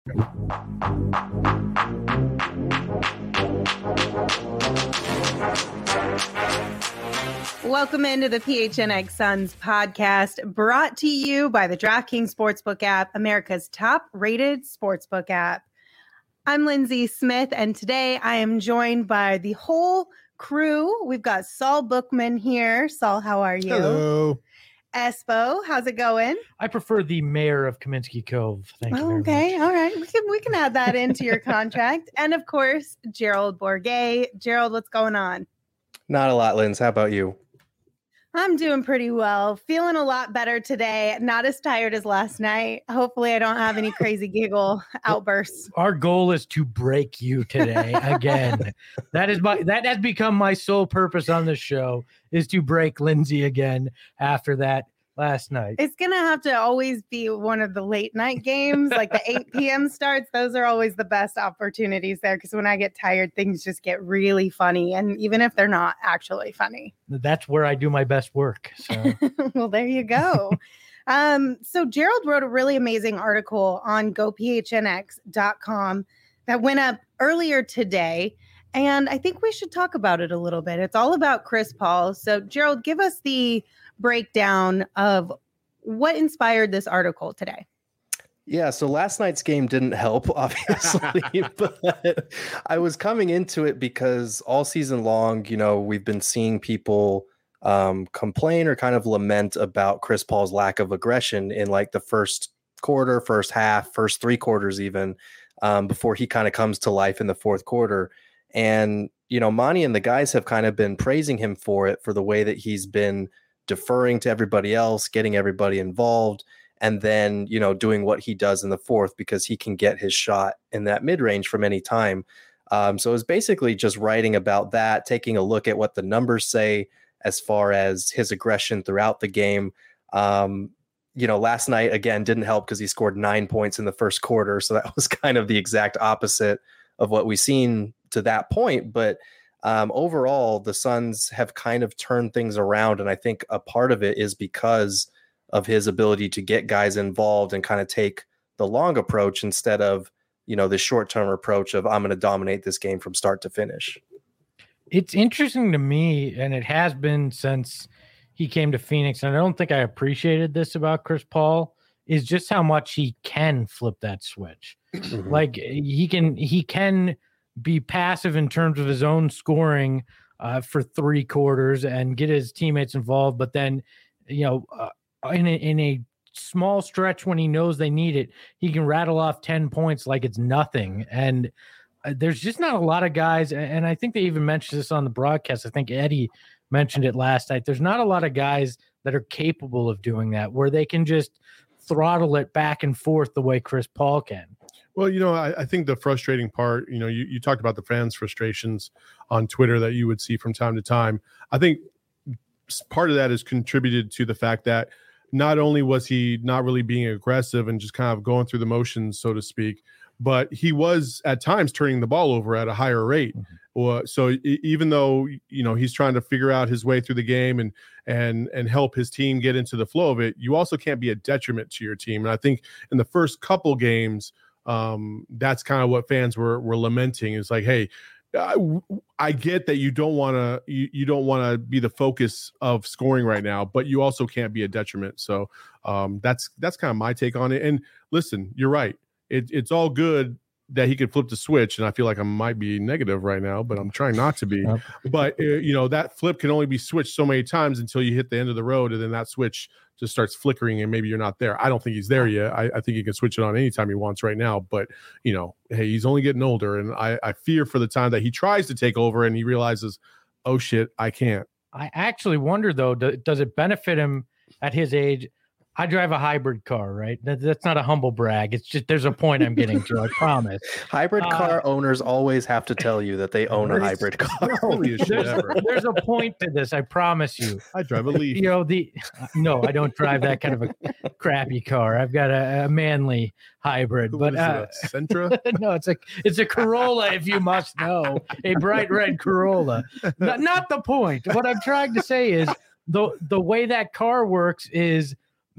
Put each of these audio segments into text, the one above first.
Welcome into the PHNX Suns podcast, brought to you by the DraftKings Sportsbook app, America's top-rated sportsbook app. I'm Lindsay Smith, and today I am joined by the whole crew. We've got Saul Bookman here. Saul, how are you? Hello. Espo, how's it going? I prefer the mayor of Kaminsky Cove. Thank you very much. Okay, all right. We can add that into your contract. And of course, Gerald Bourguet. Gerald, what's going on? Not a lot, Linz. How about you? I'm doing pretty well. Feeling a lot better today. Not as tired as last night. Hopefully I don't have any crazy giggle outbursts. Our goal is to break you today again. That has become my sole purpose on this show, is to break Lindsay again after that last night. It's going to have to always be one of the late night games, like the 8 p.m. starts. Those are always the best opportunities there, because when I get tired, things just get really funny. And even if they're not actually funny. That's where I do my best work. So. Well, there you go. So Gerald wrote a really amazing article on gophnx.com that went up earlier today. And I think we should talk about it a little bit. It's all about Chris Paul. So Gerald, give us the breakdown of what inspired this article today. Yeah, so last night's game didn't help, obviously, but I was coming into it because all season long, we've been seeing people complain or kind of lament about Chris Paul's lack of aggression in like the first quarter, first half, first three quarters even, before he kind of comes to life in the fourth quarter. And, Monty and the guys have kind of been praising him for it, for the way that he's been deferring to everybody else, getting everybody involved, and then, doing what he does in the fourth, because he can get his shot in that mid-range from any time. So it's basically just writing about that, taking a look at what the numbers say as far as his aggression throughout the game. Last night, again, didn't help because he scored 9 points in the first quarter. So that was kind of the exact opposite of what we've seen to that point. But overall, the Suns have kind of turned things around. And I think a part of it is because of his ability to get guys involved and kind of take the long approach instead of, the short-term approach of I'm going to dominate this game from start to finish. It's interesting to me, and it has been since he came to Phoenix, and I don't think I appreciated this about Chris Paul, is just how much he can flip that switch. Mm-hmm. Like he can be passive in terms of his own scoring for three quarters and get his teammates involved. But then, in a small stretch when he knows they need it, he can rattle off 10 points like it's nothing. And there's just not a lot of guys. And I think they even mentioned this on the broadcast. I think Eddie mentioned it last night. There's not a lot of guys that are capable of doing that, where they can just throttle it back and forth the way Chris Paul can. Well, I think the frustrating part, you talked about the fans' frustrations on Twitter that you would see from time to time. I think part of that is contributed to the fact that not only was he not really being aggressive and just kind of going through the motions, so to speak, but he was at times turning the ball over at a higher rate. Mm-hmm. So even though, he's trying to figure out his way through the game and help his team get into the flow of it, you also can't be a detriment to your team. And I think in the first couple games, that's kind of what fans were lamenting. It's like, hey, I get that you don't want to be the focus of scoring right now, but you also can't be a detriment. So that's kind of my take on it. And listen, you're right. It's all good that he could flip the switch, and I feel like I might be negative right now, but I'm trying not to be. Yep. But that flip can only be switched so many times until you hit the end of the road, and then that switch just starts flickering, and maybe you're not there. I don't think he's there yet. I think he can switch it on anytime he wants right now. But hey, he's only getting older, and I fear for the time that he tries to take over and he realizes, oh shit, I can't. I actually wonder though, does it benefit him at his age? I drive a hybrid car, right? That's not a humble brag. It's just there's a point I'm getting to, I promise. Hybrid car owners always have to tell you that they own a hybrid car. There's a point to this, I promise you. I drive a Leaf. No, I don't drive that kind of a crappy car. I've got a manly hybrid. But Sentra? No, it's a Corolla, if you must know. A bright red Corolla. Not the point. What I'm trying to say is the way that car works is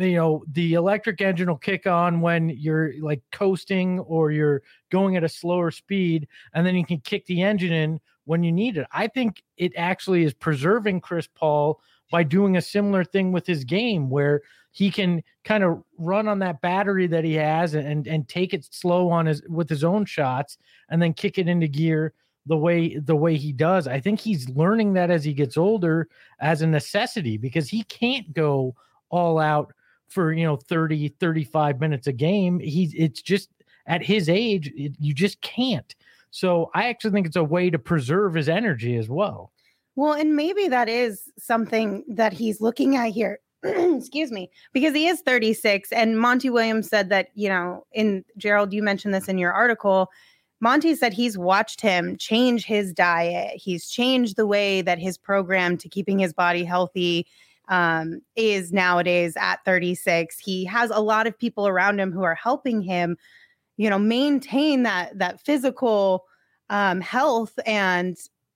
the electric engine will kick on when you're like coasting or you're going at a slower speed, and then you can kick the engine in when you need it. I think it actually is preserving Chris Paul by doing a similar thing with his game, where he can kind of run on that battery that he has and take it slow with his own shots and then kick it into gear the way he does. I think he's learning that as he gets older as a necessity, because he can't go all out for 30 35 minutes a game. It's just at his age, you just can't. So I actually think it's a way to preserve his energy as well. Well, and maybe that is something that he's looking at here. Excuse me, because he is 36, and Monty Williams said that, in Gerald, you mentioned this in your article. Monty said he's watched him change his diet. He's changed the way that his program to keeping his body healthy is nowadays at 36. He has a lot of people around him who are helping him, maintain that physical health and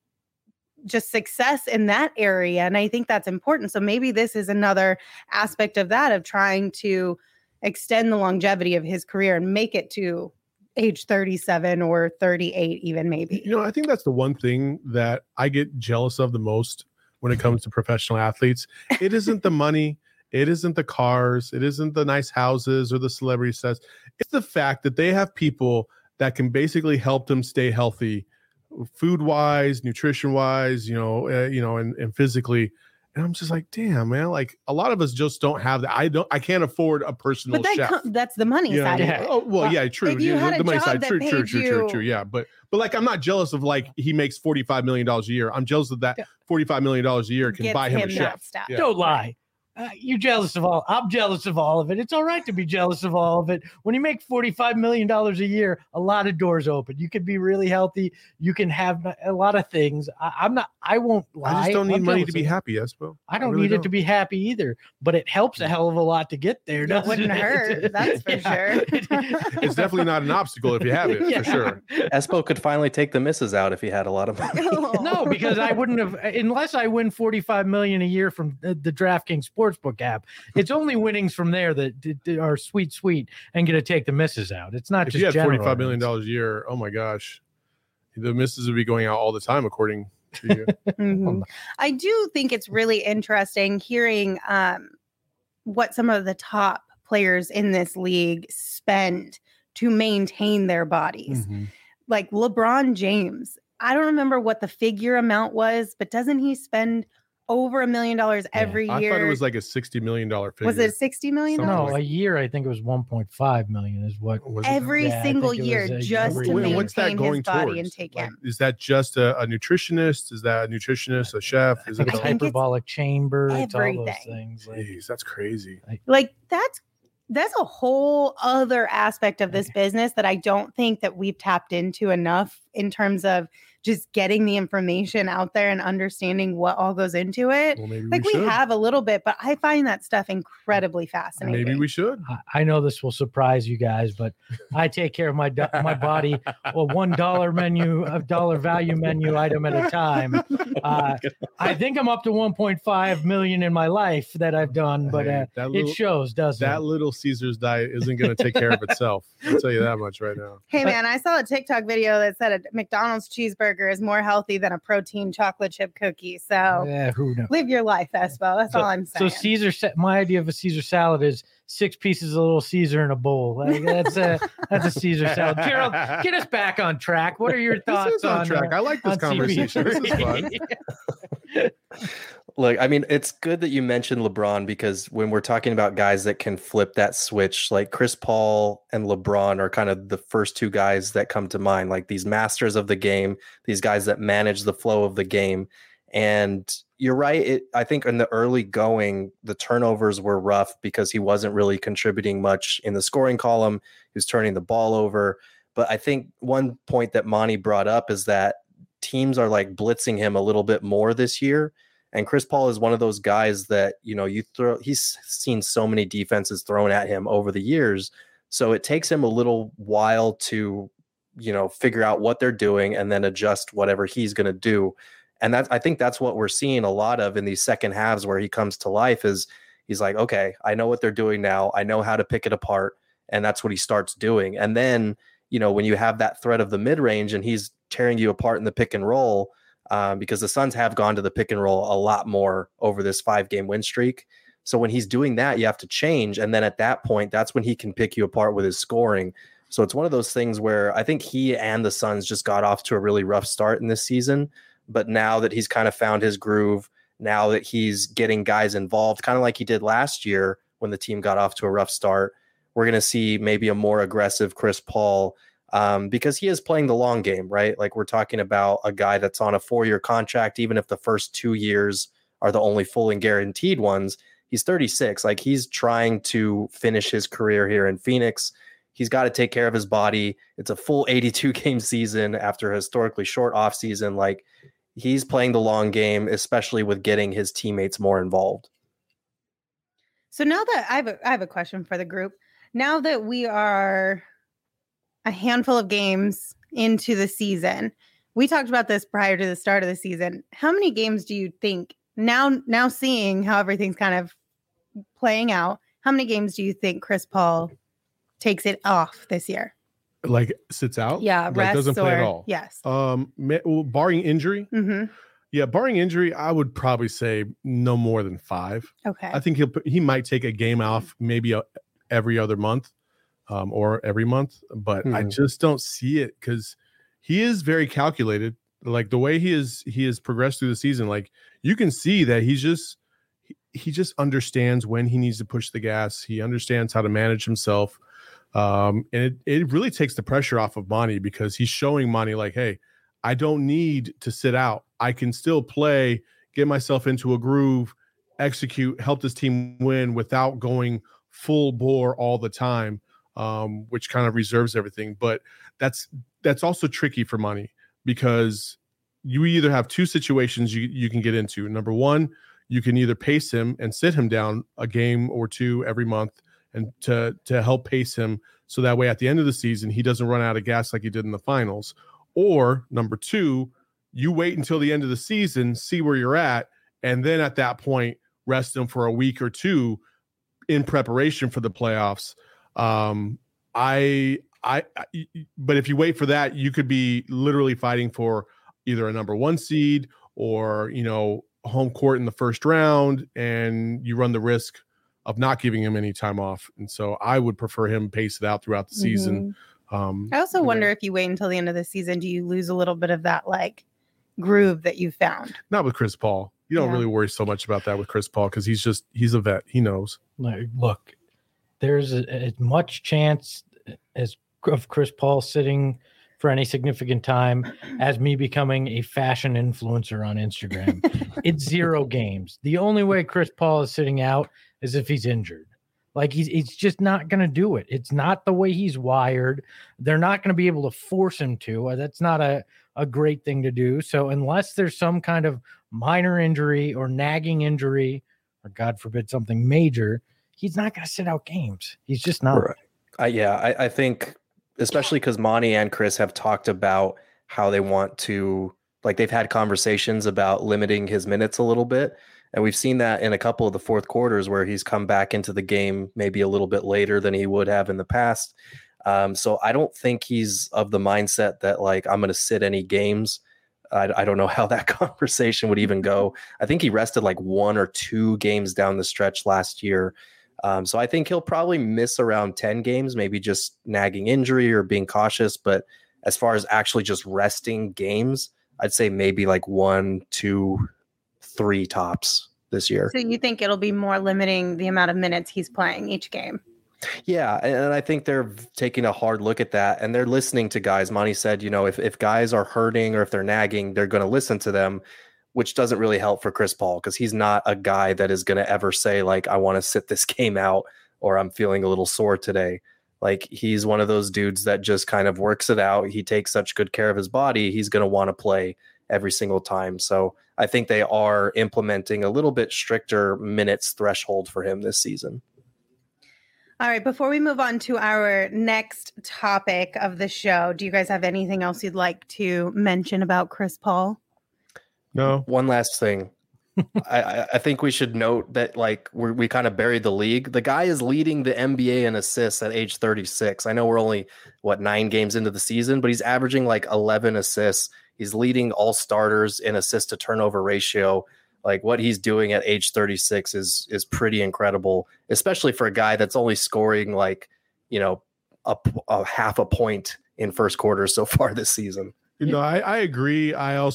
just success in that area. And I think that's important. So maybe this is another aspect of that, of trying to extend the longevity of his career and make it to age 37 or 38, even maybe. I think that's the one thing that I get jealous of the most when it comes to professional athletes. It isn't the money. It isn't the cars. It isn't the nice houses or the celebrity sets. It's the fact that they have people that can basically help them stay healthy, food wise, nutrition wise, and physically. And I'm just like, damn, man, like a lot of us just don't have that. I can't afford a personal chef. That's the money side of it. Oh, well, yeah, true. If you had the money job side, that true. paid you- Yeah. But like, I'm not jealous of like, he makes $45 million a year. I'm jealous of that $45 million a year can Gets buy him a that chef. stuff. Yeah. Don't lie. You're jealous of all. I'm jealous of all of it. It's all right to be jealous of all of it. When you make $45 million a year, a lot of doors open. You can be really healthy. You can have a lot of things. I won't lie. I just don't need I'm money jealous to be of it. happy, Espo. I don't need it to be happy either, but it helps a hell of a lot to get there. It wouldn't hurt, that's for sure. It's definitely not an obstacle if you have it, for sure. Espo could finally take the misses out if he had a lot of money. No, because I wouldn't have, unless I win $45 million a year from the DraftKings Sportsbook app. It's only winnings from there that are sweet, and get to take the misses out. It's not If just you had general $45 million a year, oh my gosh, the misses would be going out all the time, according to you. Mhm. I do think it's really interesting hearing what some of the top players in this league spend to maintain their bodies. Like LeBron James. I don't remember what the figure amount was, but doesn't he spend over $1 million every year? I thought it was like a $60 million figure. Was it $60 million? Something No, like- a year I think it was 1.5 million is what. Was it? Every Yeah, I single think it year, was a- just every to year. maintain What's that going his body towards? and take Like, him. is that just a nutritionist? Is that a nutritionist, a chef? Is it? It's I a think it's hyperbolic chamber. It's all those everything. things. Like, Jeez, that's crazy. Like that's a whole other aspect of this business that I don't think that we've tapped into enough in terms of just getting the information out there and understanding what all goes into it. Well, maybe Like we should. have a little bit, but I find that stuff incredibly fascinating. Maybe we should. I know this will surprise you guys, but I take care of my body a $1 menu, a dollar value menu item at a time. I think I'm up to 1.5 million in my life that I've done, but Hey, that little- it shows, doesn't That it? little Caesar's diet isn't going to take care of itself. I'll tell you that much right now. Hey man, I saw a TikTok video that said a McDonald's cheeseburger is more healthy than a protein chocolate chip cookie. So Yeah, who knows? live your life, Espo. That's all I'm So saying. my idea of a Caesar salad is 6 pieces of Little Caesar in a bowl. Like, that's a Caesar salad. Gerald, get us back on track. What are your thoughts This is on track. I like this on conversation. This is fun. Look, I mean, it's good that you mentioned LeBron, because when we're talking about guys that can flip that switch, like Chris Paul and LeBron are kind of the first two guys that come to mind, like these masters of the game, these guys that manage the flow of the game. And you're right. I think in the early going, the turnovers were rough because he wasn't really contributing much in the scoring column. He was turning the ball over. But I think one point that Monty brought up is that teams are like blitzing him a little bit more this year. And Chris Paul is one of those guys that, he's seen so many defenses thrown at him over the years. So it takes him a little while to, figure out what they're doing and then adjust whatever he's going to do. And I think that's what we're seeing a lot of in these second halves where he comes to life, is He's like, okay, I know what they're doing now. I know how to pick it apart. And that's what he starts doing. And then, when you have that threat of the mid-range and he's tearing you apart in the pick and roll, because the Suns have gone to the pick and roll a lot more over this 5-game win streak. So when he's doing that, you have to change. And then at that point, that's when he can pick you apart with his scoring. So it's one of those things where I think he and the Suns just got off to a really rough start in this season. But now that he's kind of found his groove, now that he's getting guys involved, kind of like he did last year when the team got off to a rough start, we're going to see maybe a more aggressive Chris Paul, because he is playing the long game, right? Like, we're talking about a guy that's on a 4-year contract. Even if the first 2 years are the only full and guaranteed ones, he's 36. Like, he's trying to finish his career here in Phoenix. He's got to take care of his body. It's a full 82 game season after a historically short off season. Like, he's playing the long game, especially with getting his teammates more involved. So now that I have a question for the group. Now that we are a handful of games into the season, we talked about this prior to the start of the season. How many games do you think, now seeing how everything's kind of playing out, how many games do you think Chris Paul takes it off this year? Like, sits out? Yeah, like doesn't play at all. Yes. Barring injury. Mm-hmm. Yeah, barring injury, I would probably say no more than 5. Okay. I think he might take a game off, maybe every other month, or every month, but I just don't see it because he is very calculated. Like, the way he has progressed through the season, like, you can see that he just understands when he needs to push the gas. He understands how to manage himself. And it really takes the pressure off of Monty, because he's showing Monty, like, hey, I don't need to sit out. I can still play, get myself into a groove, execute, help this team win without going full bore all the time, which kind of reserves everything. But that's also tricky for Monty, because you either have 2 situations you can get into. Number one, you can either pace him and sit him down a game or 2 every month, and to help pace him, so that way at the end of the season he doesn't run out of gas like he did in the finals. Or number 2, you wait until the end of the season, see where you're at, and then at that point rest him for a week or 2 in preparation for the playoffs. But if you wait for that, you could be literally fighting for either a number 1 seed or, home court in the first round, and you run the risk of not giving him any time off. And so I would prefer him pace it out throughout the season. I also wonder if you wait until the end of the season, do you lose a little bit of that, like, groove that you found? Not with Chris Paul. You don't really worry so much about that with Chris Paul, because he's a vet. He knows. Look, there's as much chance of Chris Paul sitting for any significant time as me becoming a fashion influencer on Instagram. It's 0 games. The only way Chris Paul is sitting out is if he's injured. Like, he's just not going to do it. It's not the way he's wired. They're not going to be able to force him to. That's not a great thing to do. So unless there's some kind of minor injury or nagging injury, or God forbid something major, he's not going to sit out games. He's just not. Right. I think, especially because Monty and Chris have talked about how they want to, like, they've had conversations about limiting his minutes a little bit. And we've seen that in a couple of the fourth quarters where he's come back into the game maybe a little bit later than he would have in the past. So I don't think he's of the mindset that, like, I'm going to sit any games. I don't know how that conversation would even go. I think he rested like 1 or 2 games down the stretch last year. So I think he'll probably miss around 10 games, maybe just nagging injury or being cautious. But as far as actually just resting games, I'd say maybe like 1, 2, 3 tops this year. So you think it'll be more limiting the amount of minutes he's playing each game? Yeah, and I think they're taking a hard look at that, and they're listening to guys. Monty said, if guys are hurting or if they're nagging, they're going to listen to them, which doesn't really help for Chris Paul, because he's not a guy that is going to ever say, like, I want to sit this game out, or I'm feeling a little sore today. Like, he's one of those dudes that just kind of works it out. He takes such good care of his body. He's going to want to play every single time. So I think they are implementing a little bit stricter minutes threshold for him this season. All right, before we move on to our next topic of the show, do you guys have anything else you'd like to mention about Chris Paul? No. One last thing. I think we should note that like we kind of buried the league. The guy is leading the NBA in assists at age 36. I know we're only 9 games into the season, but he's averaging like 11 assists. He's leading all starters in assist to turnover ratio. Like what he's doing at age 36 is pretty incredible, especially for a guy that's only scoring like, a half a point in first quarter so far this season. I agree.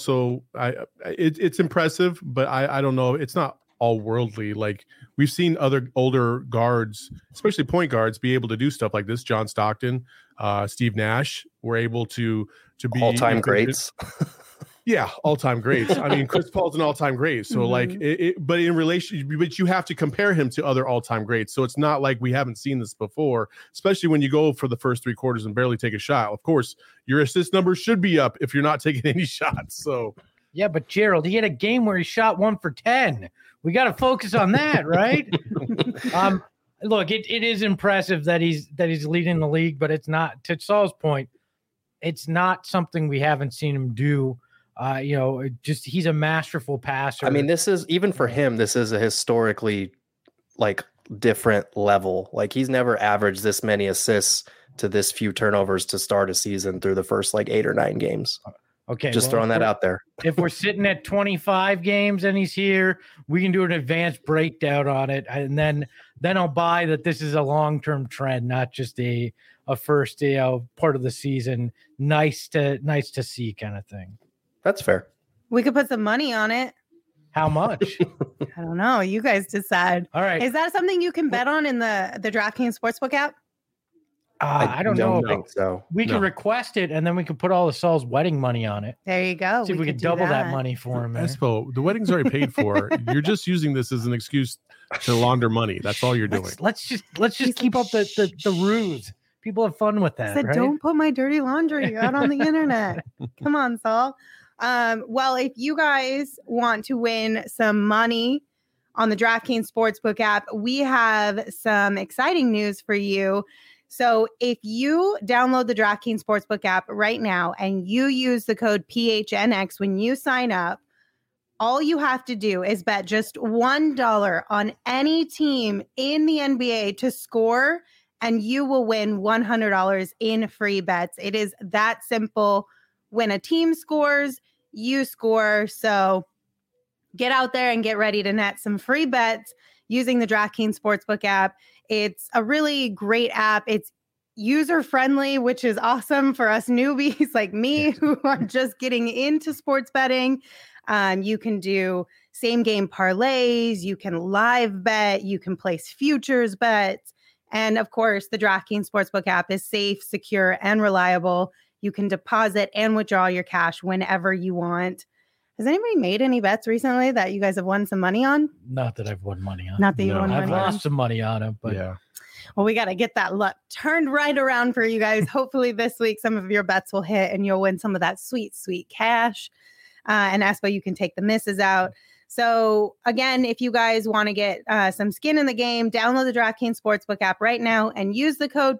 It's impressive, but I don't know. It's not all worldly. Like we've seen other older guards, especially point guards, be able to do stuff like this. John Stockton, Steve Nash were able to be all-time greats. Yeah, all-time greats. I mean, Chris Paul's an all-time great. So like but you have to compare him to other all-time greats. So it's not like we haven't seen this before, especially when you go for the first 3 quarters and barely take a shot. Of course, your assist numbers should be up if you're not taking any shots. So yeah, but Gerald, he had a game where he shot 1 for 10. We got to focus on that, right? Look, it is impressive that he's leading the league, but it's not, to Saul's point, it's not something we haven't seen him do. He's a masterful passer. I mean, this is, even for him, this is a historically like different level. Like he's never averaged this many assists to this few turnovers to start a season through the first like 8 or 9 games. Okay. Just throwing that out there. If we're sitting at 25 games and he's here, we can do an advanced breakdown on it. And then I'll buy that this is a long-term trend, not just a first, part of the season. Nice to see kind of thing. That's fair. We could put some money on it. How much? I don't know. You guys decide. All right. Is that something you can bet on in the DraftKings Sportsbook app? I don't know. Think so. We can request it, and then we can put all of Saul's wedding money on it. There you go. See if we could double that money for him. Espo, the wedding's already paid for. You're just using this as an excuse to launder money. That's all you're doing. Let's just keep up the ruse. People have fun with that. Right? Don't put my dirty laundry out on the internet. Come on, Saul. Well, if you guys want to win some money on the DraftKings Sportsbook app, we have some exciting news for you. So if you download the DraftKings Sportsbook app right now and you use the code PHNX when you sign up, all you have to do is bet just $1 on any team in the NBA to score, and you will win $100 in free bets. It is that simple. When a team scores, you score. So get out there and get ready to net some free bets using the DraftKings Sportsbook app. It's a really great app. It's user-friendly, which is awesome for us newbies like me who are just getting into sports betting. You can do same-game parlays. You can live bet. You can place futures bets. And, of course, the DraftKings Sportsbook app is safe, secure, and reliable. You can deposit and withdraw your cash whenever you want. Has anybody made any bets recently that you guys have won some money on? Not that I've won money on. Not that you won money on. I've lost some money on it, but yeah. Well, we got to get that luck turned right around for you guys. Hopefully this week some of your bets will hit and you'll win some of that sweet, sweet cash. And that's why you can take the misses out. So again, if you guys want to get some skin in the game, download the DraftKings Sportsbook app right now and use the code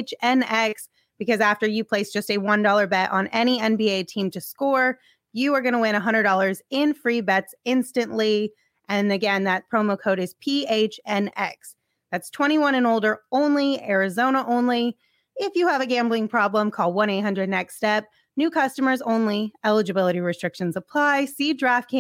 PHNX, because after you place just a $1 bet on any NBA team to score, you are going to win $100 in free bets instantly. And again, that promo code is PHNX. That's 21 and older only, Arizona only. If you have a gambling problem, call 1-800-NEXT-STEP. New customers only. Eligibility restrictions apply. See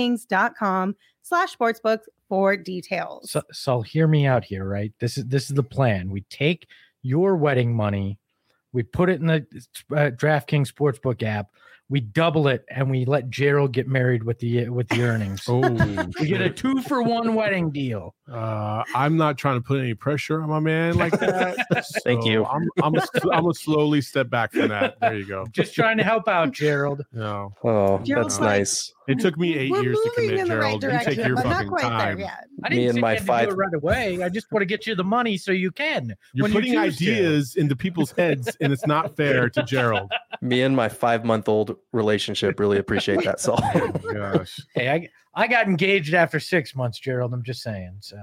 DraftKings.com/sportsbook for details. So hear me out here, right? This is the plan. We take your wedding money, we put it in the DraftKings Sportsbook app. We double it and we let Gerald get married with the earnings. Oh, we get a 2-for-1 wedding deal. I'm not trying to put any pressure on my man like that. Thank you. I'm gonna slowly step back from that. There you go. Just trying to help out, Gerald. No. Oh, Gerald's that's like, nice. It took me 8 years to commit, in the right Gerald. You direction, take your but not fucking quite time. there yet. I Me didn't and say my you had to five- do it right away. I just want to get you the money so you can. You're when putting you choose to. ideas into people's heads, and it's not fair to Gerald. Me and my 5-month-old relationship really appreciate that, Saul. Oh my gosh. Hey, I got engaged after 6 months, Gerald. I'm just saying. So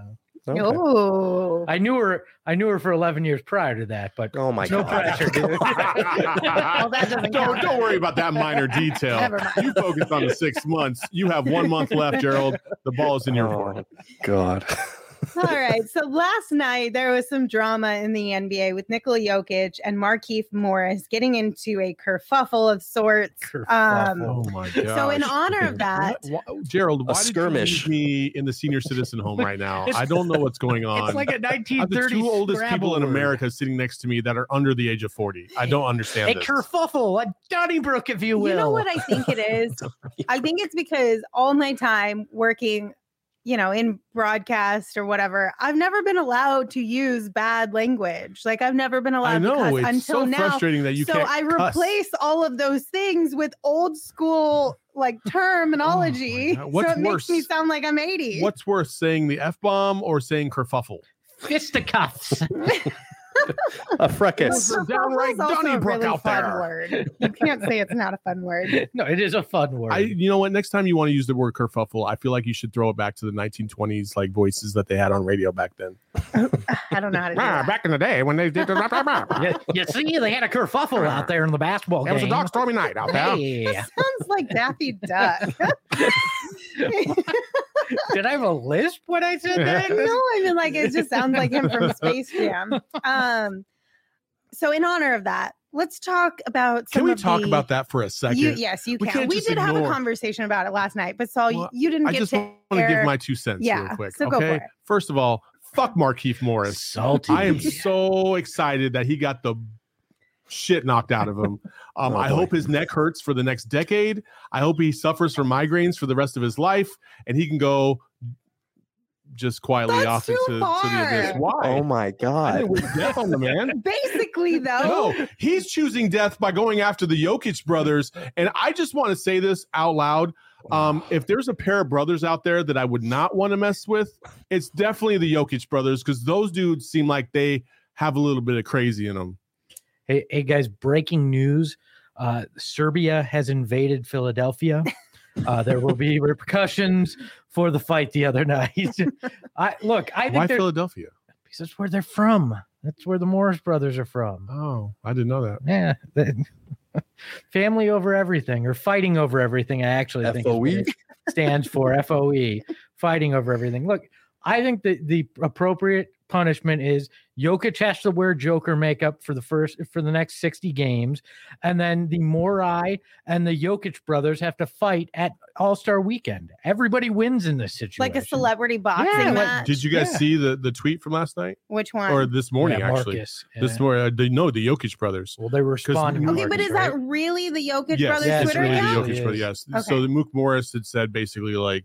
Okay. Oh, I knew her for 11 years prior to that, but Oh my no god. pressure, dude. well, that doesn't count. Don't worry about that minor detail. Never mind. You focus on the 6 months. You have 1 month left, Gerald. The ball is in your court. Oh god. All right. So last night there was some drama in the NBA with Nikola Jokic and Markieff Morris getting into a kerfuffle of sorts. Kerfuffle. Oh my god! So in honor of that, Gerald, why skirmish. did you leave me in the senior citizen home right now? I don't know what's going on. It's like a I have the 1930s 2 oldest Scrabble people in word. America sitting next to me that are under the age of 40. I don't understand A this. kerfuffle, a Donnybrook, if you will. you know what I think it is? I think it's because all my time working, in broadcast or whatever, I've never been allowed to use bad language. Like I've never been allowed I know to cuss it's until so now. frustrating that you So can't I cuss. replace all of those things with old school like terminology. God. What's so it makes me worse? sound like I'm 80. What's worse, saying the F-bomb or saying kerfuffle? Fisticuffs. A fracas. Kerfuffle. downright Kerfuffle's also a Donnybrook really out fun there. word. You can't say it's not a fun word. No, it is a fun word. You know what? Next time you want to use the word kerfuffle, I feel like you should throw it back to the 1920s like voices that they had on radio back then. I don't know how to do that. Back in the day when they did the you see, they had a kerfuffle out there in the basketball It was a game. dark, stormy night out there. Hey. Sounds like Daffy Duck. Did I have a lisp when I said that? No, I mean like it just sounds like him from Space Jam. So in honor of that, let's talk about some Can we of talk the- about that for a second? yes, you We can. can't We just did have a ignore- conversation about it last night, but Saul, Well, you didn't I get just to want to air- give my 2 cents Yeah, real quick. so go Okay. for it. First of all, fuck Markieff Morris. Salty. I am so excited that he got the shit knocked out of him. Oh, I boy. hope his neck hurts for the next decade. I hope he suffers from migraines for the rest of his life, and he can go just quietly That's off too into to the abyss. far. Why? Oh my I god. didn't wish death on the man. Basically, though, No, he's choosing death by going after the Jokic brothers. And I just want to say this out loud. If there's a pair of brothers out there that I would not want to mess with, it's definitely the Jokic brothers, because those dudes seem like they have a little bit of crazy in them. Hey guys, breaking news. Serbia has invaded Philadelphia. There will be repercussions for the fight the other night. I Why think Philadelphia? because that's where they're from. That's where the Morris brothers are from. Oh, I didn't know that. Yeah. Family over everything, or fighting over everything. I actually think is what FOE? it stands for. FOE, fighting over everything. Look, I think that the appropriate punishment is Jokic has to wear Joker makeup for the next 60 games, and then the Morai and the Jokic brothers have to fight at All-Star Weekend. Everybody wins in this situation. like a celebrity boxing Yeah, like- match. Did you guys Yeah. see the tweet from last night Which one? or this morning? Yeah, Actually, Marcus. this Yeah. morning. The Jokic brothers. Well, they were responding. okay, to but Marcus, is that right? really the Jokic Yes, brothers Yeah, it's Twitter really the account? Jokic It brothers. is. Yes. So Okay. the Mook Morris had said basically like,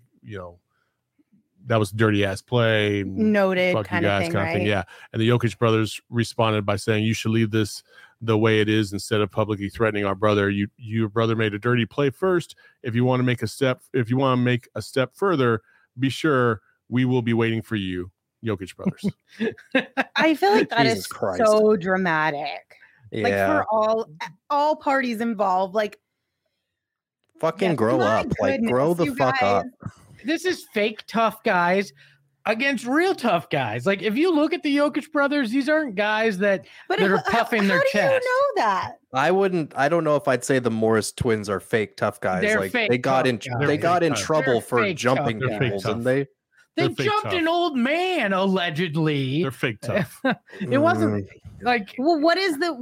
that was dirty ass play. Noted Fuck you kind of guys thing, kind of right? thing. Yeah. And the Jokic brothers responded by saying, you should leave this the way it is instead of publicly threatening our brother. Your brother made a dirty play first. If you want to make a step further, be sure we will be waiting for you, Jokic brothers. I feel like that is Jesus Christ. so dramatic. Like Yeah. for all parties involved. Like Fucking yeah, grow my up. Like grow goodness, the you fuck guys. up. This is fake tough guys against real tough guys. Like if you look at the Jokic brothers, these aren't guys that But that are how- puffing how their do chest. you know that? I don't know if I'd say the Morris twins are fake tough guys. They're like fake they got tough in guys. they got in They're trouble They're for fake jumping tough They're fake people, tough. didn't they? They They're fake jumped tough. an old man allegedly. They're fake tough. It wasn't like Well, what is the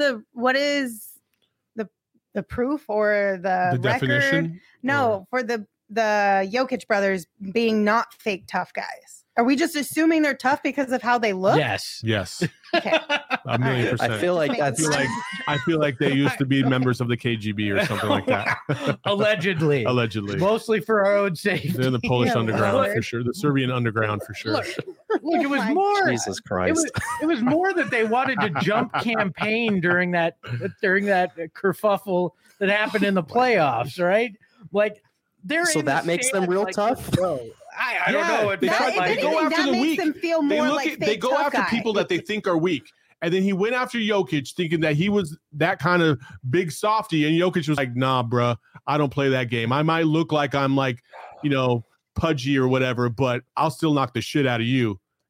proof or the The record? definition? No, for the Jokic brothers being not fake tough guys. Are we just assuming they're tough because of how they look? yes. Yes. Okay. A million percent. I feel like Just that's making I feel like they used to be members of the KGB or something like that. Allegedly. Allegedly. Mostly for our own safety. They're in the Polish Yeah, underground Lord. for sure. The Serbian underground for sure. Look, it was my more Jesus it Christ. was more that they wanted to jump campaign during that kerfuffle that happened in the playoffs, right? Like they're So in the that makes them stand, real like, tough? bro, I don't Yeah, know. It they felt try- If like they go anything, after that the makes weak. them feel They more look like at, they fake go tough after guys. people that they think are weak. And then he went after Jokic thinking that he was that kind of big softy. And Jokic was like, nah, bruh, I don't play that game. I might look like I'm like, pudgy or whatever, but I'll still knock the shit out of you.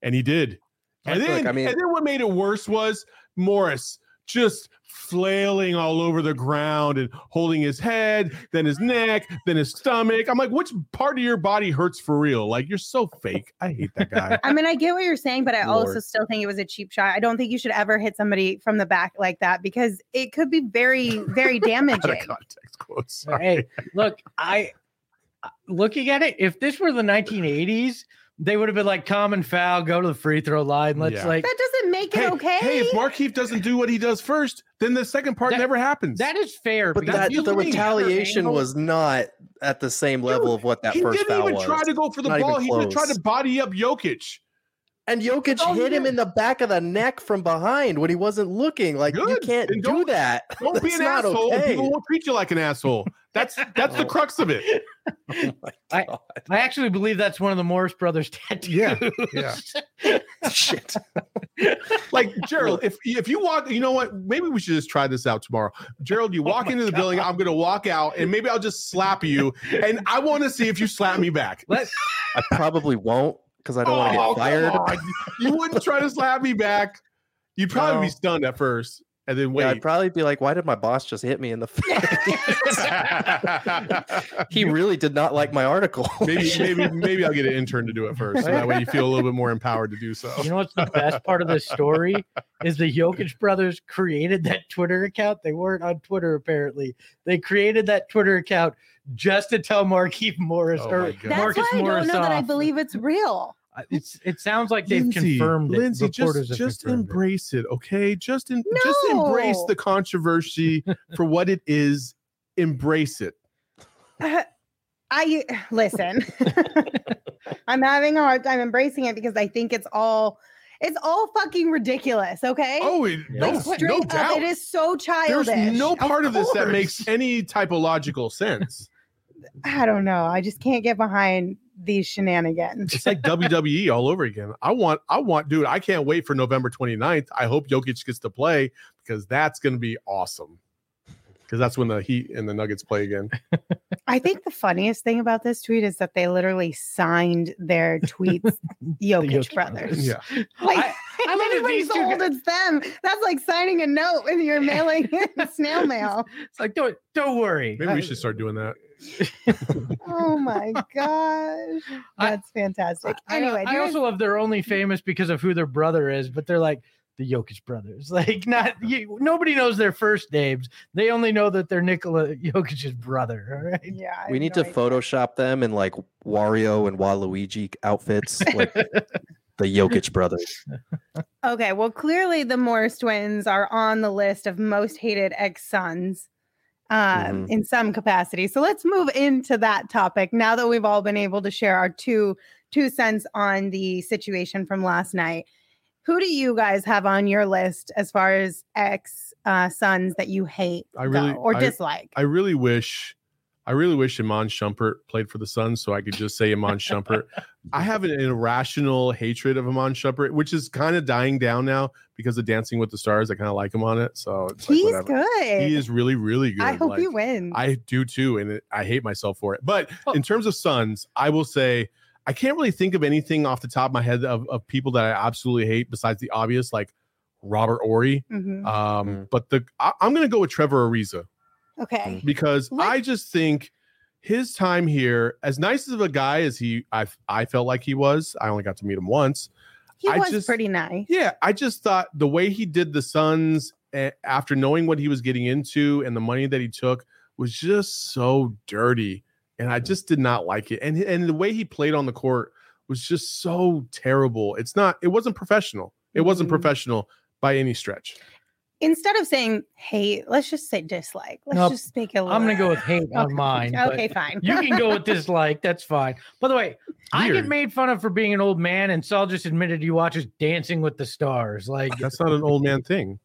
And he did. And then, Look, and then what made it worse was Morris just flailing all over the ground and holding his head, then his neck, then his stomach. I'm like, which part of your body hurts for real? Like, you're so fake. I hate that guy. I mean, I get what you're saying, but I also Lord. still think it was a cheap shot. I don't think you should ever hit somebody from the back like that because it could be very, very Out damaging. of context quotes. Sorry. Hey, look, looking at it, if this were the 1980s, they would have been like common foul, go to the free throw line. Let's Yeah. like That doesn't make it okay. Hey, if Markieff doesn't do what he does first, then the second part That- never happens. that is fair. But because that, you the look at retaliation angle- was not at the same level of what that he first didn't foul even was. try to go for the Not ball. even He just close. tried to body up Jokic. And Jokic Oh, hit him yeah. in the back of the neck from behind when he wasn't looking. Like, you Good. can't Then do don't- that. Don't be That's an not asshole. And okay. people won't treat you like an asshole. That's the crux of it. Oh my I- God. I actually believe that's one of the Morris brothers tattoos. Yeah, yeah. Shit. Like Gerald, if you walk, you know what? Maybe we should just try this out tomorrow. Gerald, you walk into the building. I'm going to walk out, and maybe I'll just slap you, and I want to see if you slap me back. Let- I probably won't because I don't want to Oh, get fired. come on. You wouldn't try to slap me back. You'd probably be No. stunned at first, and then Yeah, I'd wait. probably be like, why did my boss just hit me in the face? He really did not like my article. maybe I'll get an intern to do it first, so that way you feel a little bit more empowered to do so. You know what's the best part of this story is the Jokic brothers created that Twitter account. They weren't on Twitter apparently. They created that Twitter account just to tell Markieff Morris Oh or my God. That's Marcus why I Morris don't know that I off. believe it's real. It sounds like they've Lindsay, confirmed it. Lindsay, Reporters have just confirmed it. embrace it, okay? Just embrace No. the controversy for what it is. Embrace it. I listen. I'm having a hard time embracing it because I think it's all fucking ridiculous. Okay. Oh, Like, Straight no up, doubt. it is so childish. There's no part of this that course. makes any typological sense. I don't know. I just can't get behind these shenanigans. It's like WWE all over again. I want, dude, I can't wait for November 29th. I hope Jokic gets to play because that's going to be awesome. Because that's when the Heat and the Nuggets play again. I think the funniest thing about this tweet is that they literally signed their tweets Jokic Jokic brothers. Yeah. Like, I love that anybody's these two told it's them. That's like signing a note and you're mailing it snail mail. It's like don't worry. Maybe we should start doing that. Oh my gosh. That's fantastic. Anyway, I also love they're only famous because of who their brother is, but they're like the Jokic brothers. Like nobody knows their first names. They only know that they're Nikola Jokic's brother. All right. yeah, I We have need no to idea. Photoshop them in like Wario and Waluigi outfits, like the Jokic brothers. Okay, well, clearly the Morris twins are on the list of most hated ex-sons in some capacity. So let's move into that topic now that we've all been able to share our two cents on the situation from last night. Who do you guys have on your list as far as ex-sons that you hate dislike? I really wish Iman Shumpert played for the Suns so I could just say Iman Shumpert. I have an irrational hatred of Iman Shumpert, which is kind of dying down now because of Dancing with the Stars. I kind of like him on it. So it's like, He's whatever. good. He is really, really good. I hope Like, he wins. I do too. And I hate myself for it. But in terms of Suns, I will say I can't really think of anything off the top of my head of people that I absolutely hate besides the obvious, like Robert Ory. Mhm. But I'm going to go with Trevor Ariza Okay. because I just think his time here, as nice of a guy as I felt like he was, I only got to meet him once. He I was just- pretty nice. Yeah, I just thought the way he did the Suns after knowing what he was getting into and the money that he took was just so dirty. And I just did not like it. And the way he played on the court was just so terrible. It wasn't professional. It wasn't Mhm. professional by any stretch. Instead of saying hate, let's just say dislike. Let's Nope. just make it a little. I'm gonna go with hate on mine. but Okay, fine. You can go with dislike. That's fine. By the way, I Weird. get made fun of for being an old man, and Saul just admitted he watches Dancing with the Stars. Like That's not an old man thing.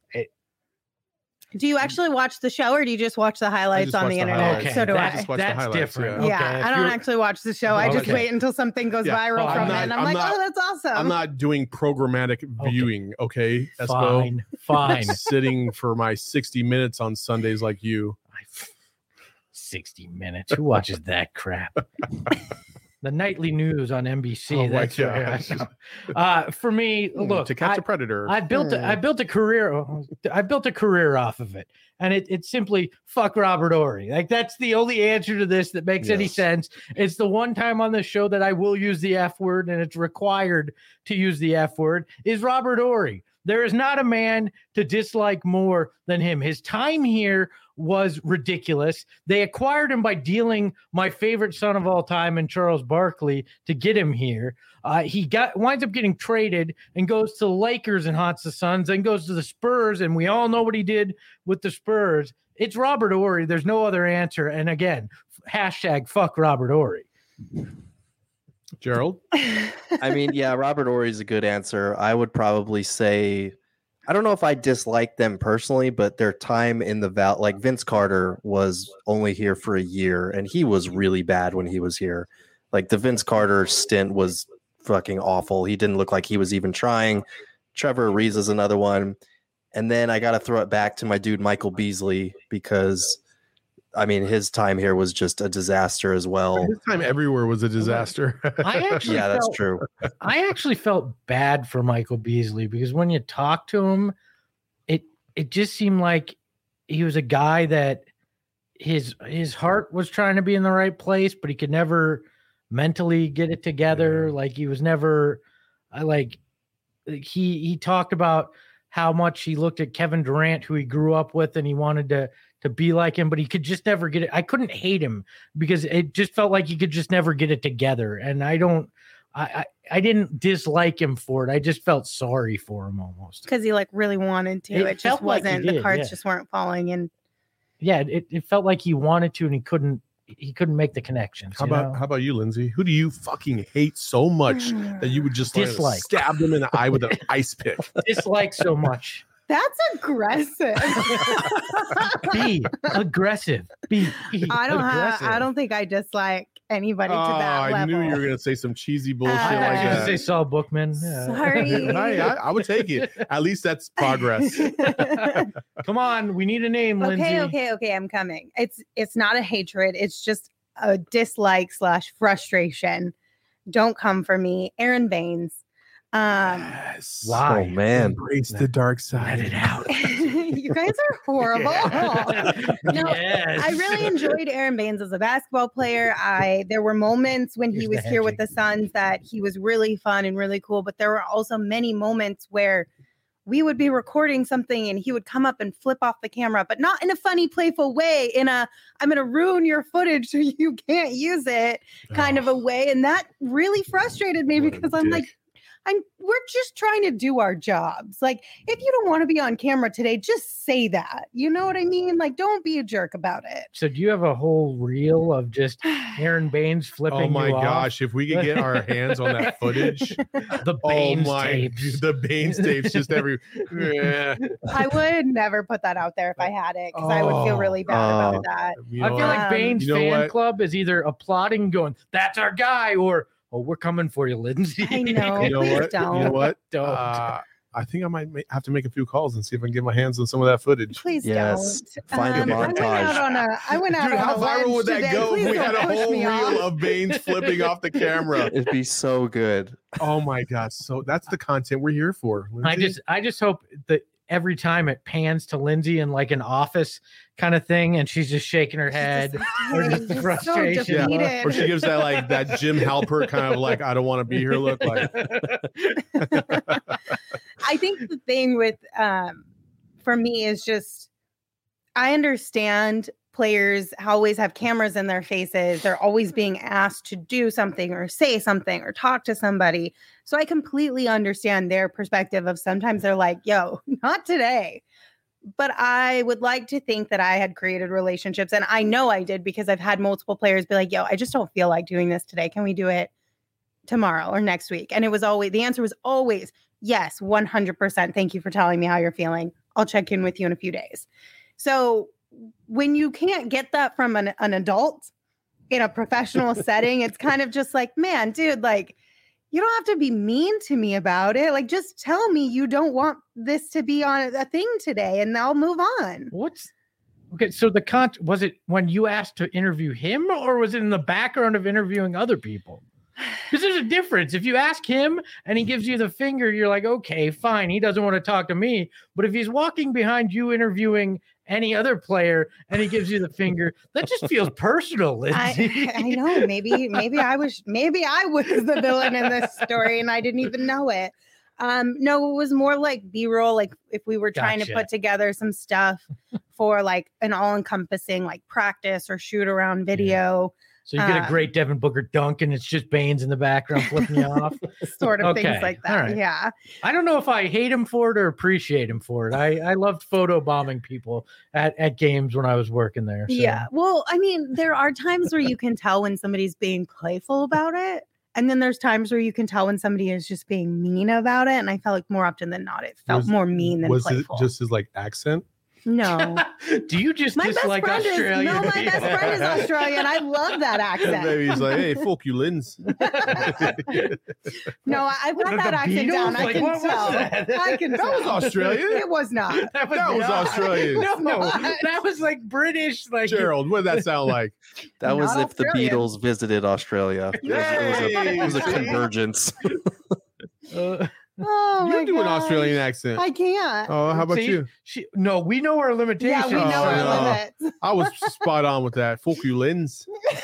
Do you actually watch the show or do you just watch the highlights just on watch the the internet? highlights. So do that's, I. just watch the that's highlights, different. yeah. Yeah, Okay, if I don't you're- actually watch the show. I just Okay. wait until something goes Yeah. viral I'm from not- it. And I'm I'm like, not- oh, that's awesome. I'm not doing programmatic viewing, okay? Espo? Fine, fine. Sitting for my 60 minutes on Sundays like you. 60 minutes. Who watches that crap? The nightly news on NBC. Oh my That's gosh. for me. Look, To Catch a Predator. I built a career. I built a career off of it, and it's simply fuck Robert Horry. Like that's the only answer to this that makes any sense. It's the one time on the show that I will use the F word, and it's required to use the F word. Is Robert Horry. There is not a man to dislike more than him. His time here was ridiculous. They acquired him by dealing my favorite son of all time in Charles Barkley to get him here. He winds up getting traded and goes to the Lakers and haunts the Suns, then goes to the Spurs, and we all know what he did with the Spurs. It's Robert Horry. There's no other answer. And again, hashtag fuck Robert Horry. Gerald? I mean, yeah, Robert Horry is a good answer. I would probably say, I don't know if I dislike them personally, but their time in the like Vince Carter was only here for a year, and he was really bad when he was here. Like the Vince Carter stint was fucking awful. He didn't look like he was even trying. Trevor Ariza is another one. And then I got to throw it back to my dude, Michael Beasley, because I mean, his time here was just a disaster as well. His time everywhere was a disaster. That's true. I actually felt bad for Michael Beasley because when you talk to him, it just seemed like he was a guy that his heart was trying to be in the right place, but he could never mentally get it together. Yeah. Like he was never he talked about how much he looked at Kevin Durant, who he grew up with, and he wanted to be like him, but he could just never get it. I couldn't hate him because it just felt like he could just never get it together. And I didn't dislike him for it. I just felt sorry for him almost. Because he like really wanted to. It just wasn't, the cards just weren't falling in. Yeah, it felt like he wanted to and he couldn't make the connections. How about you, Lindsay? Who do you fucking hate so much that you would just dislike? Stab them in the eye with an ice pick? Dislike so much. That's aggressive. Be aggressive. Be aggressive. I don't think I dislike anybody to that level. I knew you were gonna say some cheesy bullshit like I that. Say Saul Bookman. Yeah. Sorry. I would take it. At least that's progress. Come on, we need a name, Lindsay. Okay. I'm coming. It's not a hatred. It's just a dislike / frustration. Don't come for me, Aaron Baines. Yes. Why? Oh man, embrace the dark side. Let it out. You guys are horrible. Yes. I really enjoyed Aaron Baines as a basketball player. There were moments when he was here with the Suns that he was really fun and really cool, but there were also many moments where we would be recording something and he would come up and flip off the camera, but not in a funny, playful way, I'm going to ruin your footage so you can't use it kind of a way. And that really frustrated me because I'm like, we're just trying to do our jobs. Like, if you don't want to be on camera today, just say that. You know what I mean? Like, don't be a jerk about it. So do you have a whole reel of just Aaron Baines flipping? Oh my gosh, if we could get our hands on that footage. The Baines tapes. The Baines tapes just every. I would never put that out there if I had it because I would feel really bad about that. I feel like Baines fan club is either applauding, going, "That's our guy," or "Oh, we're coming for you, Lindsay." I know. You know what? Don't. You know what? Don't. I think I might have to make a few calls and see if I can get my hands on some of that footage. Please yes. don't. Find a montage. I went out Dude, on how a viral would that today. go Please if we don't had a push whole me reel off. of Baines flipping off the camera? It'd be so good. Oh my gosh. So that's the content we're here for. Lindsay. I just hope that every time it pans to Lindsay in like an office kind of thing, and she's just shaking her head, or just the frustration. So defeated. Or she gives that like that Jim Halpert kind of like, I don't want to be here look like. I think the thing with for me is just I understand players always have cameras in their faces. They're always being asked to do something or say something or talk to somebody. So I completely understand their perspective of sometimes they're like, yo, not today. But I would like to think that I had created relationships. And I know I did because I've had multiple players be like, yo, I just don't feel like doing this today. Can we do it tomorrow or next week? And the answer was always, yes, 100%. Thank you for telling me how you're feeling. I'll check in with you in a few days. So when you can't get that from an adult in a professional setting, it's kind of just like, man, dude, like, you don't have to be mean to me about it. Like, just tell me you don't want this to be on a thing today and I'll move on. Okay, so was it when you asked to interview him or was it in the background of interviewing other people? Because there's a difference. If you ask him and he gives you the finger, you're like, okay, fine. He doesn't want to talk to me. But if he's walking behind you interviewing any other player and he gives you the finger, that just feels personal, Lindsay. I know. Maybe I was the villain in this story and I didn't even know it. No, it was more like B-roll. Like if we were trying to put together some stuff for like an all-encompassing like practice or shoot around video. So you get a great Devin Booker dunk and it's just Baines in the background flipping you off. Sort of things like that. Right. Yeah. I don't know if I hate him for it or appreciate him for it. I loved photo bombing people at games when I was working there. So. Yeah. Well, I mean, there are times where you can tell when somebody's being playful about it. And then there's times where you can tell when somebody is just being mean about it. And I felt like more often than not, it felt more mean than playful. Was it just his like accent? No. Do you just dislike Australia? My best friend is Australian. I love that accent. Maybe he's like, hey, fuck you, Linz. No, I put that accent down. I can tell. That was Australian. It was not. That was Australian. No, that was like British. Like Gerald, what did that sound like? That was if the Beatles visited Australia. It was a convergence. Oh, you do an Australian accent. I can't. Oh, how about you? No, we know our limitations. Yeah, we know our limits. I was spot on with that. Fuck you, Linz.